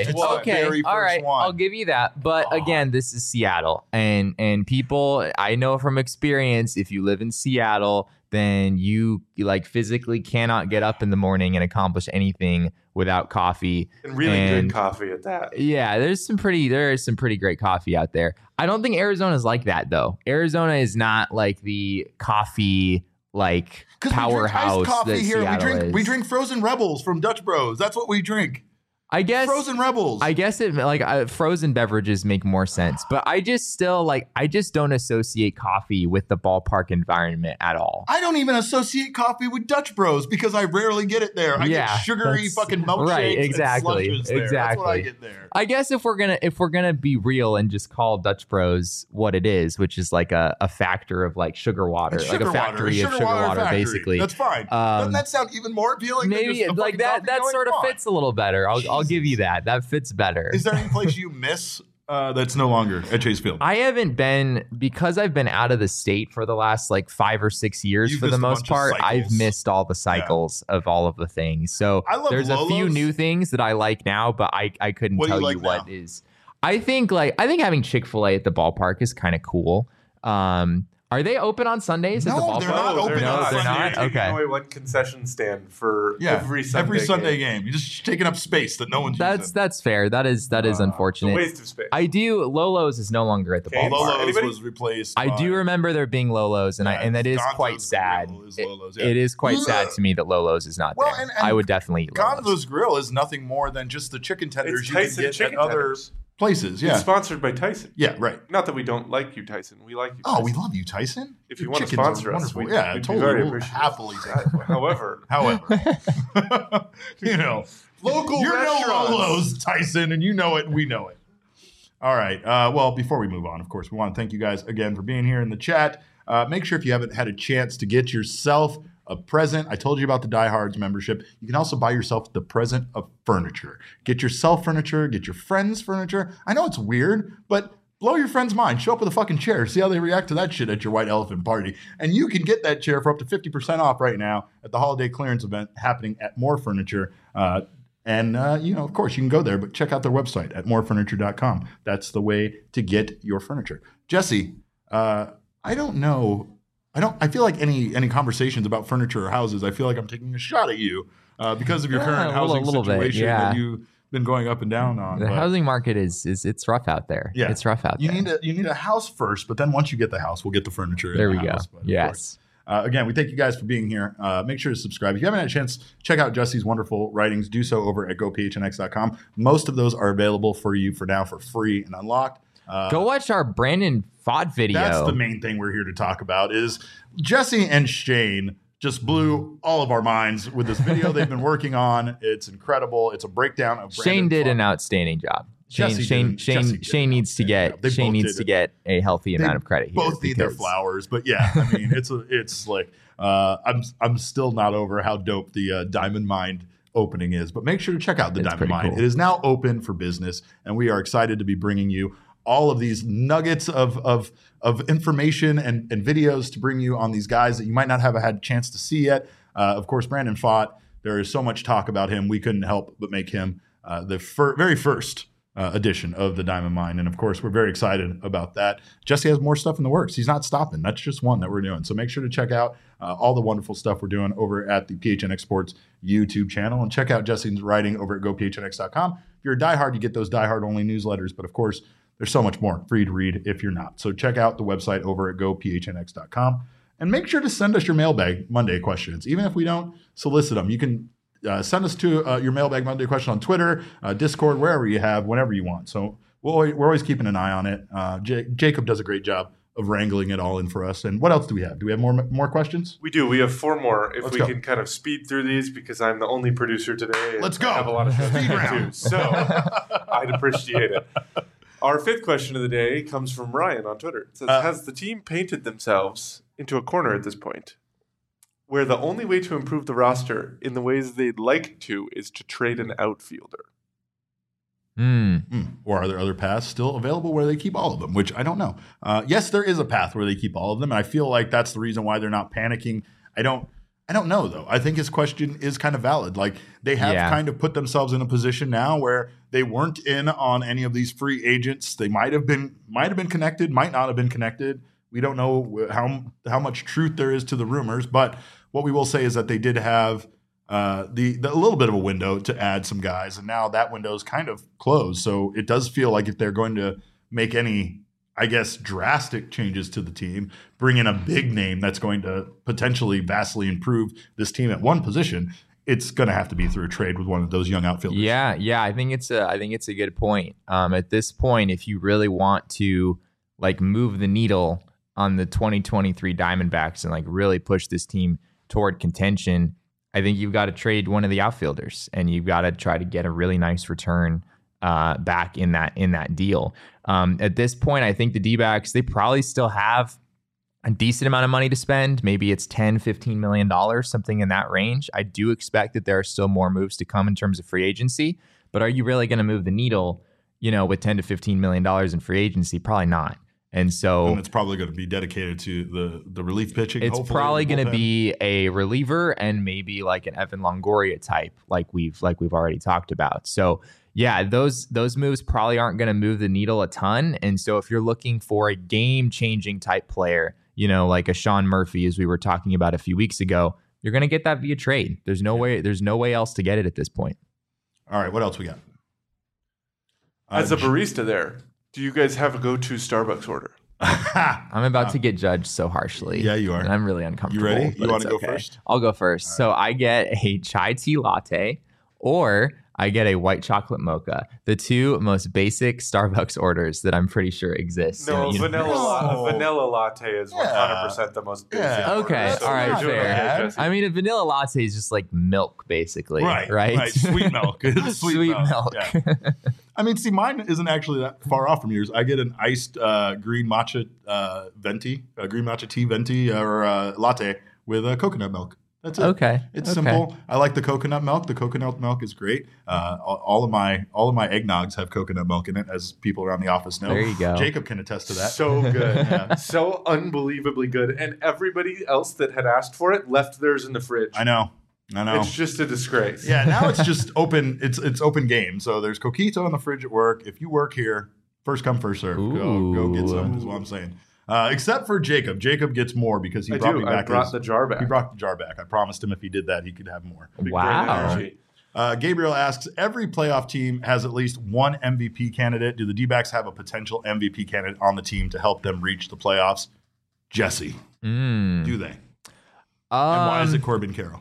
All right. I'll give you that. But again, this is Seattle, and people, I know from experience, if you live in Seattle, then you physically cannot get up in the morning and accomplish anything without coffee. And good coffee at that. Yeah, there is some pretty great coffee out there. I don't think Arizona is like that though. Arizona is not like the coffee powerhouse that Seattle is. We drink Frozen Rebels from Dutch Bros. That's what we drink. I guess Frozen Rebels. I guess it frozen beverages make more sense, but I just don't associate coffee with the ballpark environment at all. I don't even associate coffee with Dutch Bros because I rarely get it there. I get sugary fucking milkshakes. Right, exactly, and there. That's what I get there. I guess if we're gonna be real and just call Dutch Bros what it is, which is like a factor of like sugar water, like a factory of sugar water, basically. That's fine. Doesn't that sound even more appealing? Maybe like that sort of fits a little better. I'll give you that. That fits better. Is there any place you miss that's no longer at Chase Field? I haven't been, because I've been out of the state for the last like 5 or 6 years. For the most part, I've missed all the cycles of all of the things. So there's Lolo's. A few new things that I like now, but I couldn't tell you what is. I think having Chick-fil-A at the ballpark is kind of cool. Are they open on Sundays at the ballpark? They're not open. No, they're not. You're Okay. taking away one concession stand for every Sunday game. You're just taking up space that no one's using. That's fair. That is unfortunate. It's a waste of space. Lolo's is no longer at the ballpark. Lolo's was replaced. I do remember there being Lolo's, and that is quite sad. It is quite sad to me that Lolo's is not there. And I would definitely eat Lolo's. Gonzo's Grill is nothing more than just the chicken tenders you can get at other places. It's sponsored by Tyson. Yeah, right. Not that we don't like you, Tyson. We like you, Tyson. Oh, we love you, Tyson. If you want to sponsor us, we'd totally very appreciative. Happily. However, local you're restaurants. No Lolo's, Tyson, and you know it. We know it. All right. Well, before we move on, of course, we want to thank you guys again for being here in the chat. Make sure if you haven't had a chance to get yourself a present. I told you about the Diehards membership. You can also buy yourself the present of furniture. Get yourself furniture. Get your friends furniture. I know it's weird, but blow your friend's mind. Show up with a fucking chair. See how they react to that shit at your white elephant party. And you can get that chair for up to 50% off right now at the holiday clearance event happening at More Furniture. Of course, you can go there, but check out their website at morefurniture.com. That's the way to get your furniture. Jesse, I don't know. I feel like any conversations about furniture or houses, I feel like I'm taking a shot at you because of your current housing situation that you've been going up and down on. The housing market it's rough out there. Yeah. It's rough out there. You need a house first, but then once you get the house, we'll get the furniture. There we go. Yes. Again, we thank you guys for being here. Make sure to subscribe. If you haven't had a chance, check out Jesse's wonderful writings. Do so over at gophnx.com. Most of those are available for you for now for free and unlocked. Go watch our Brandon Pfaadt video. That's the main thing we're here to talk about is Jesse and Shane just blew all of our minds with this video they've been working on. It's incredible. It's a breakdown of Brandon Shane did Pfaadt. An outstanding job. Shane needs to get a healthy amount of credit here. Both need their flowers, but yeah, I mean, it's like I'm still not over how dope the Diamond Mine opening is. But make sure to check out the Diamond Mine. Cool. It is now open for business, and we are excited to be bringing you all of these nuggets of information and videos to bring you on these guys that you might not have had a chance to see yet. Of course, Brandon Pfaadt. There is so much talk about him. We couldn't help but make him the very first edition of the Diamond Mine. And of course, we're very excited about that. Jesse has more stuff in the works. He's not stopping. That's just one that we're doing. So make sure to check out all the wonderful stuff we're doing over at the PHNX Sports YouTube channel. And check out Jesse's writing over at gophnx.com. If you're a diehard, you get those diehard only newsletters. But of course, there's so much more for you to read if you're not. So check out the website over at gophnx.com. And make sure to send us your Mailbag Monday questions. Even if we don't solicit them, you can send us to your Mailbag Monday question on Twitter, Discord, wherever you have, whenever you want. So we're always keeping an eye on it. Jacob does a great job of wrangling it all in for us. And what else do we have? Do we have more questions? We do. We have 4 more. If we can kind of speed through these because I'm the only producer today. Let's go. I have a lot of shows to do, so I'd appreciate it. Our 5th question of the day comes from Ryan on Twitter. It says, has the team painted themselves into a corner at this point where the only way to improve the roster in the ways they'd like to is to trade an outfielder? Or are there other paths still available where they keep all of them, which I don't know. Yes, there is a path where they keep all of them, and I feel like that's the reason why they're not panicking. I don't know, though. I think his question is kind of valid. Like, they have kind of put themselves in a position now where they weren't in on any of these free agents. They might have been connected, might not have been connected. We don't know how much truth there is to the rumors, but what we will say is that they did have the little bit of a window to add some guys, and now that window is kind of closed. So it does feel like if they're going to make any, I guess, drastic changes to the team, bring in a big name that's going to potentially vastly improve this team at one position, it's going to have to be through a trade with one of those young outfielders. Yeah, I think it's a good point. At this point, if you really want to like move the needle on the 2023 Diamondbacks and like really push this team toward contention, I think you've got to trade one of the outfielders and you've got to try to get a really nice return back in that deal. At this point, I think the D-backs, they probably still have a decent amount of money to spend. Maybe it's $10-15 million, something in that range. I do expect that there are still more moves to come in terms of free agency, but are you really going to move the needle, with $10 to $15 million in free agency? Probably not. And so it's probably going to be dedicated to the relief pitching. It's probably going to be a reliever and maybe like an Evan Longoria type, like we've already talked about. So yeah, those moves probably aren't going to move the needle a ton. And so if you're looking for a game changing type player, like a Sean Murphy, as we were talking about a few weeks ago, you're going to get that via trade. There's no way else to get it at this point. All right, what else we got? As a barista there, do you guys have a go-to Starbucks order? I'm about to get judged so harshly. Yeah, you are. And I'm really uncomfortable. You ready? You want to go first? I'll go first. Right. So I get a chai tea latte, or I get a white chocolate mocha. The two most basic Starbucks orders that I'm pretty sure exist. No, vanilla latte is 100% the most basic. Yeah. Okay, order. So all right, fair. I mean, a vanilla latte is just like milk, basically. Right? Sweet milk. Sweet milk. Yeah. I mean, see, mine isn't actually that far off from yours. I get an iced green matcha green matcha tea venti or latte with coconut milk. That's it. Okay. It's simple. I like the coconut milk. The coconut milk is great. All of my eggnogs have coconut milk in it, as people around the office know. There you go. Jacob can attest to that. So good. So unbelievably good. And everybody else that had asked for it left theirs in the fridge. I know. It's just a disgrace. Yeah, now it's just open. It's open game. So there's Coquito in the fridge at work. If you work here, first come, first serve. Go get some, is what I'm saying. Except for Jacob. Jacob gets more because he brought me back. I brought the jar back. He brought the jar back. I promised him if he did that, he could have more. Wow. Gabriel asks, every playoff team has at least one MVP candidate. Do the D-backs have a potential MVP candidate on the team to help them reach the playoffs? Jesse, do they? And why is it Corbin Carroll?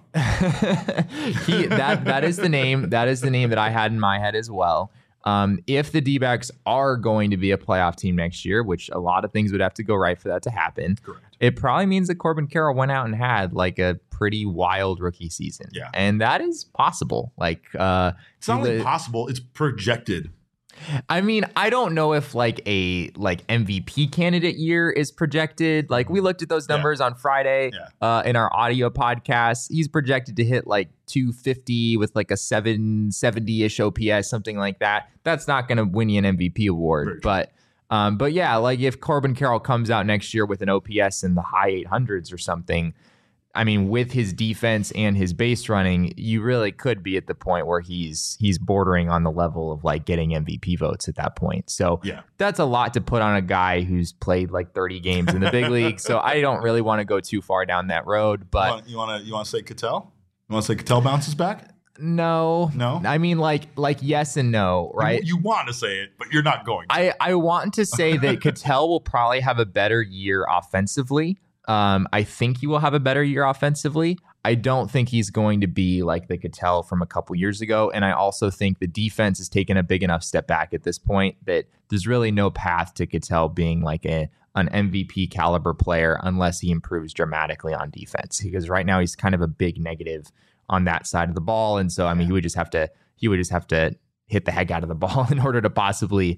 That is the name. That is the name that I had in my head as well. If the D-backs are going to be a playoff team next year, which a lot of things would have to go right for that to happen, correct, it probably means that Corbin Carroll went out and had like a pretty wild rookie season. Yeah. And that is possible. Like, it's not only possible, it's projected. I mean, I don't know if like a MVP candidate year is projected. Like we looked at those numbers on Friday in our audio podcast. He's projected to hit like 250 with like a 770-ish OPS, something like that. That's not going to win you an MVP award. But yeah, like if Corbin Carroll comes out next year with an OPS in the high 800s or something, I mean, with his defense and his base running, you really could be at the point where he's bordering on the level of like getting MVP votes at that point. So that's a lot to put on a guy who's played like 30 games in the big league. So I don't really want to go too far down that road. But you want to say Ketel? You want to say Ketel bounces back? No. I mean, like yes and no, right? You want to say it, but you're not going to. I want to say that Ketel will probably have a better year offensively. I think he will have a better year offensively. I don't think he's going to be like the Ketel from a couple years ago. And I also think the defense has taken a big enough step back at this point that there's really no path to Ketel being like an MVP caliber player unless he improves dramatically on defense, because right now he's kind of a big negative on that side of the ball. And so, I mean, he would just have to hit the heck out of the ball in order to possibly,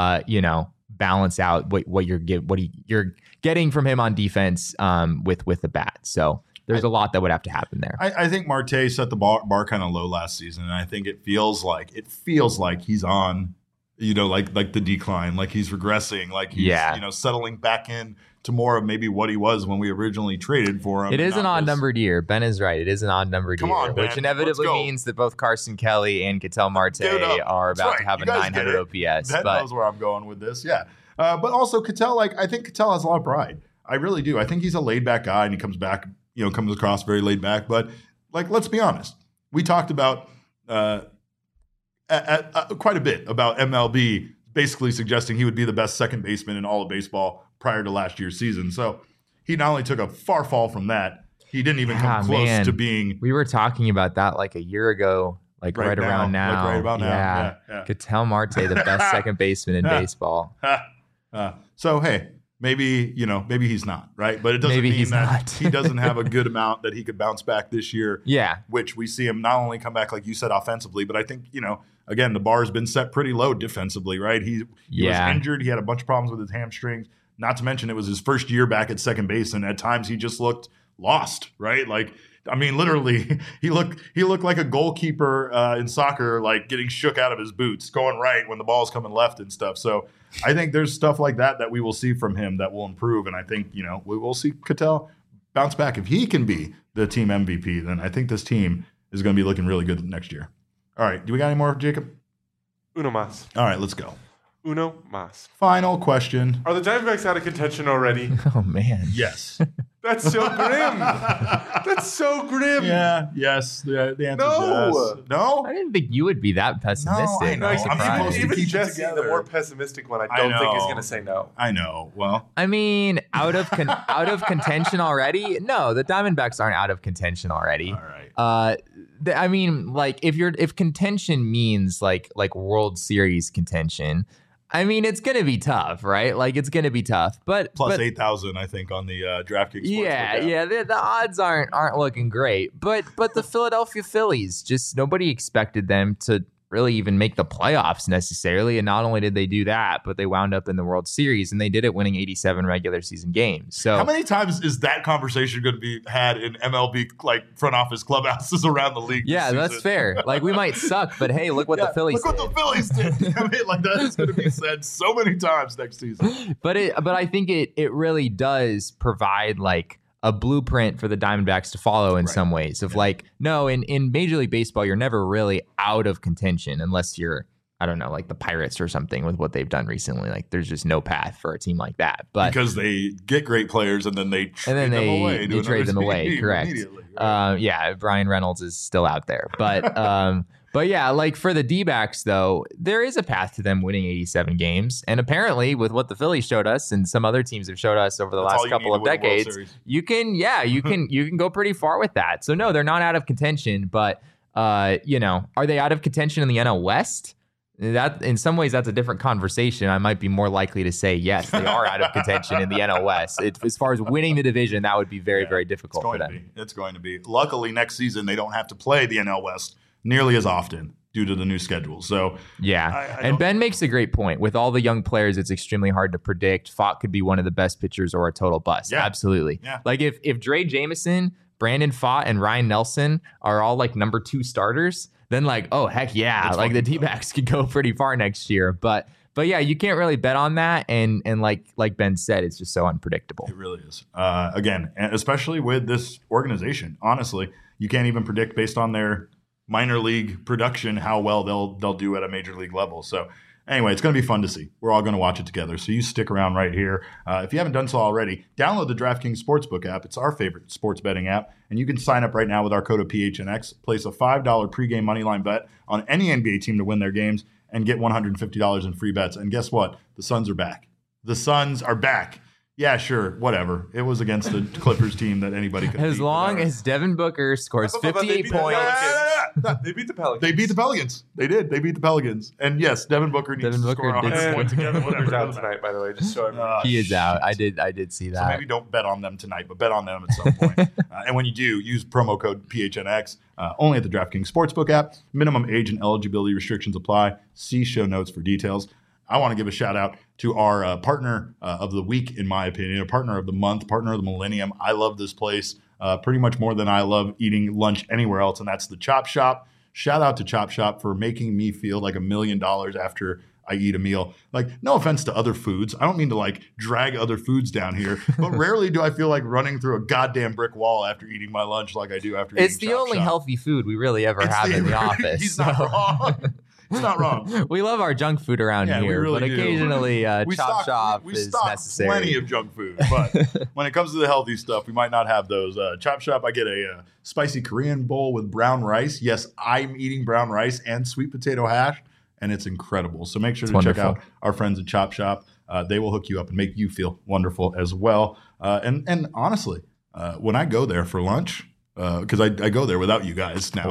balance out what you're getting from him on defense with the bat. So there's a lot that would have to happen there. I think Marte set the bar kind of low last season, and I think it feels like he's on, like the decline, like he's regressing, like he's settling back in to more of maybe what he was when we originally traded for him. It is an odd-numbered year. Ben is right. It is an odd-numbered year, which inevitably means that both Carson Kelly and Ketel Marte are about to have a 900 OPS. Ben knows where I'm going with this. Yeah. But also Ketel, I think Ketel has a lot of pride. I really do. I think he's a laid-back guy, and he comes across very laid-back. But, let's be honest. We talked about quite a bit about MLB basically suggesting he would be the best second baseman in all of baseball prior to last year's season. So he not only took a far fall from that, he didn't even come close to being. We were talking about that like a year ago, right around now. Right about now. Yeah. Ketel Marte, the best second baseman in baseball. So, hey, maybe he's not, right? But it doesn't mean that he doesn't have a good amount that he could bounce back this year. Yeah. Which we see him not only come back, like you said, offensively, but I think, again, the bar has been set pretty low defensively, right? He was injured. He had a bunch of problems with his hamstrings. Not to mention it was his first year back at second base, and at times he just looked lost, right? I mean, literally, he looked like a goalkeeper in soccer, like getting shook out of his boots, going right when the ball's coming left and stuff. So I think there's stuff like that we will see from him that will improve. And I think, we will see Ketel bounce back. If he can be the team MVP, then I think this team is going to be looking really good next year. All right. Do we got any more, Jacob? Uno más. All right, let's go. Uno más. Final question. Are the Diamondbacks out of contention already? Oh, man. Yes. That's so grim. That's so grim. Yeah, yes. The answer is yes. No? I didn't think you would be that pessimistic. No, I know. I'm I'm surprised. supposed to Even keep it Jesse, the together. more pessimistic one, I don't think is going to say no. I know. Well, I mean, out of contention already? No, the Diamondbacks aren't out of contention already. all right. I mean, like if contention means like World Series contention, I mean, it's going to be tough, right? Like it's going to be tough, but Plus 8,000, I think, on the DraftKings. Yeah. The odds aren't looking great, but the Philadelphia Phillies, just nobody expected them to really even make the playoffs necessarily. And not only did they do that, but they wound up in the World Series, and they did it winning 87 regular season games. So how many times is that conversation going to be had in MLB like front office clubhouses around the league? Yeah, that's fair. Like we might suck, but hey, look what the Phillies look did. what the Phillies did. I mean, like that is going to be said so many times next season. But I think it really does provide like a blueprint for the Diamondbacks to follow in some ways of like, no, in Major League Baseball, you're never really out of contention unless you're, I don't know, like the Pirates or something with what they've done recently. Like there's just no path for a team like that. But because they get great players and then they trade them away. They trade them away. Correct. Right? Yeah. Brian Reynolds is still out there, but, but yeah, like for the D-backs, though, there is a path to them winning 87 games. And apparently with what the Phillies showed us and some other teams have showed us over the last couple of decades, you can go pretty far with that. So no, they're not out of contention, but are they out of contention in the NL West? That in some ways that's a different conversation. I might be more likely to say yes, they are out of contention in the NL West. As far as winning the division, that would be very, very difficult for them. It's going to be. Luckily, next season they don't have to play the NL West nearly as often due to the new schedule. So yeah, and Ben makes a great point. With all the young players, it's extremely hard to predict. Pfaadt could be one of the best pitchers or a total bust. Yeah. Absolutely. Yeah. Like if Dre Jameson, Brandon Pfaadt, and Ryan Nelson are all like number 2 starters, then like, oh heck yeah, like the D-backs could go pretty far next year. But yeah, you can't really bet on that, and like Ben said, it's just so unpredictable. It really is. Again, especially with this organization, honestly, you can't even predict based on their minor league production how well they'll do at a major league level. So anyway, it's going to be fun to see. We're all going to watch it together. So you stick around right here. If you haven't done so already, download the DraftKings Sportsbook app. It's our favorite sports betting app. And you can sign up right now with our code of PHNX, place a $5 pregame moneyline bet on any NBA team to win their games, and get $150 in free bets. And guess what? The Suns are back. The Suns are back. Yeah, sure, whatever. It was against the Clippers team that anybody could. As long as Devin Booker scores 58 points. They beat the Pelicans. They beat the Pelicans. They did. They beat the Pelicans. And yes, Devin Booker needs to score 100 points again. Booker's out tonight, by the way, just so everyone. He is out. I did see that. So maybe don't bet on them tonight, but bet on them at some point. And when you do, use promo code PHNX only at the DraftKings Sportsbook app. Minimum age and eligibility restrictions apply. See show notes for details. I want to give a shout out to our partner of the week, in my opinion, a partner of the month, partner of the millennium. I love this place pretty much more than I love eating lunch anywhere else, and that's the Chop Shop. Shout out to Chop Shop for making me feel like $1 million after I eat a meal. Like, no offense to other foods. I don't mean to like drag other foods down here, but rarely do I feel like running through a goddamn brick wall after eating my lunch like I do after eating It's the only healthy food we really ever have in the office. He's not wrong. It's not wrong. We love our junk food around here, really but occasionally Chop Shop we is stock necessary. Plenty of junk food, but when it comes to the healthy stuff, we might not have those. Chop Shop, I get a spicy Korean bowl with brown rice. Yes, I'm eating brown rice and sweet potato hash, and it's incredible. So make sure to check out our friends at Chop Shop. They will hook you up and make you feel wonderful as well. And honestly, when I go there for lunch, because I go there without you guys now.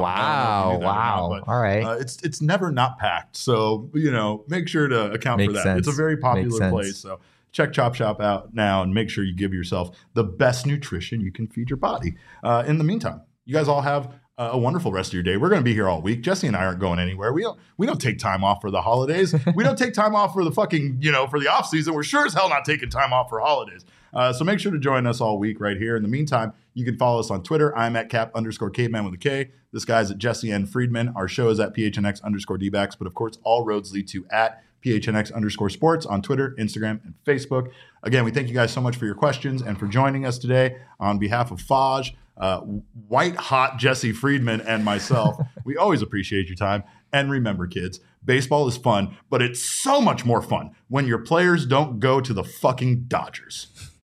Wow. All right. It's never not packed. So, make sure to account for that. Sense. It's a very popular place. So check Chop Shop out now and make sure you give yourself the best nutrition you can feed your body. In the meantime, you guys all have a wonderful rest of your day. We're going to be here all week. Jesse and I aren't going anywhere. We don't take time off for the holidays. We don't take time off for the fucking, for the off season. We're sure as hell not taking time off for holidays. So make sure to join us all week right here. In the meantime, you can follow us on Twitter. I'm at Cap_caveman with a K. This guy's at Jesse N. Friedman. Our show is at PHNX_DBacks. But of course, all roads lead to at PHNX_sports on Twitter, Instagram, and Facebook. Again, we thank you guys so much for your questions and for joining us today. On behalf of Faj, white hot Jesse Friedman, and myself, we always appreciate your time. And remember, kids, baseball is fun, but it's so much more fun when your players don't go to the fucking Dodgers.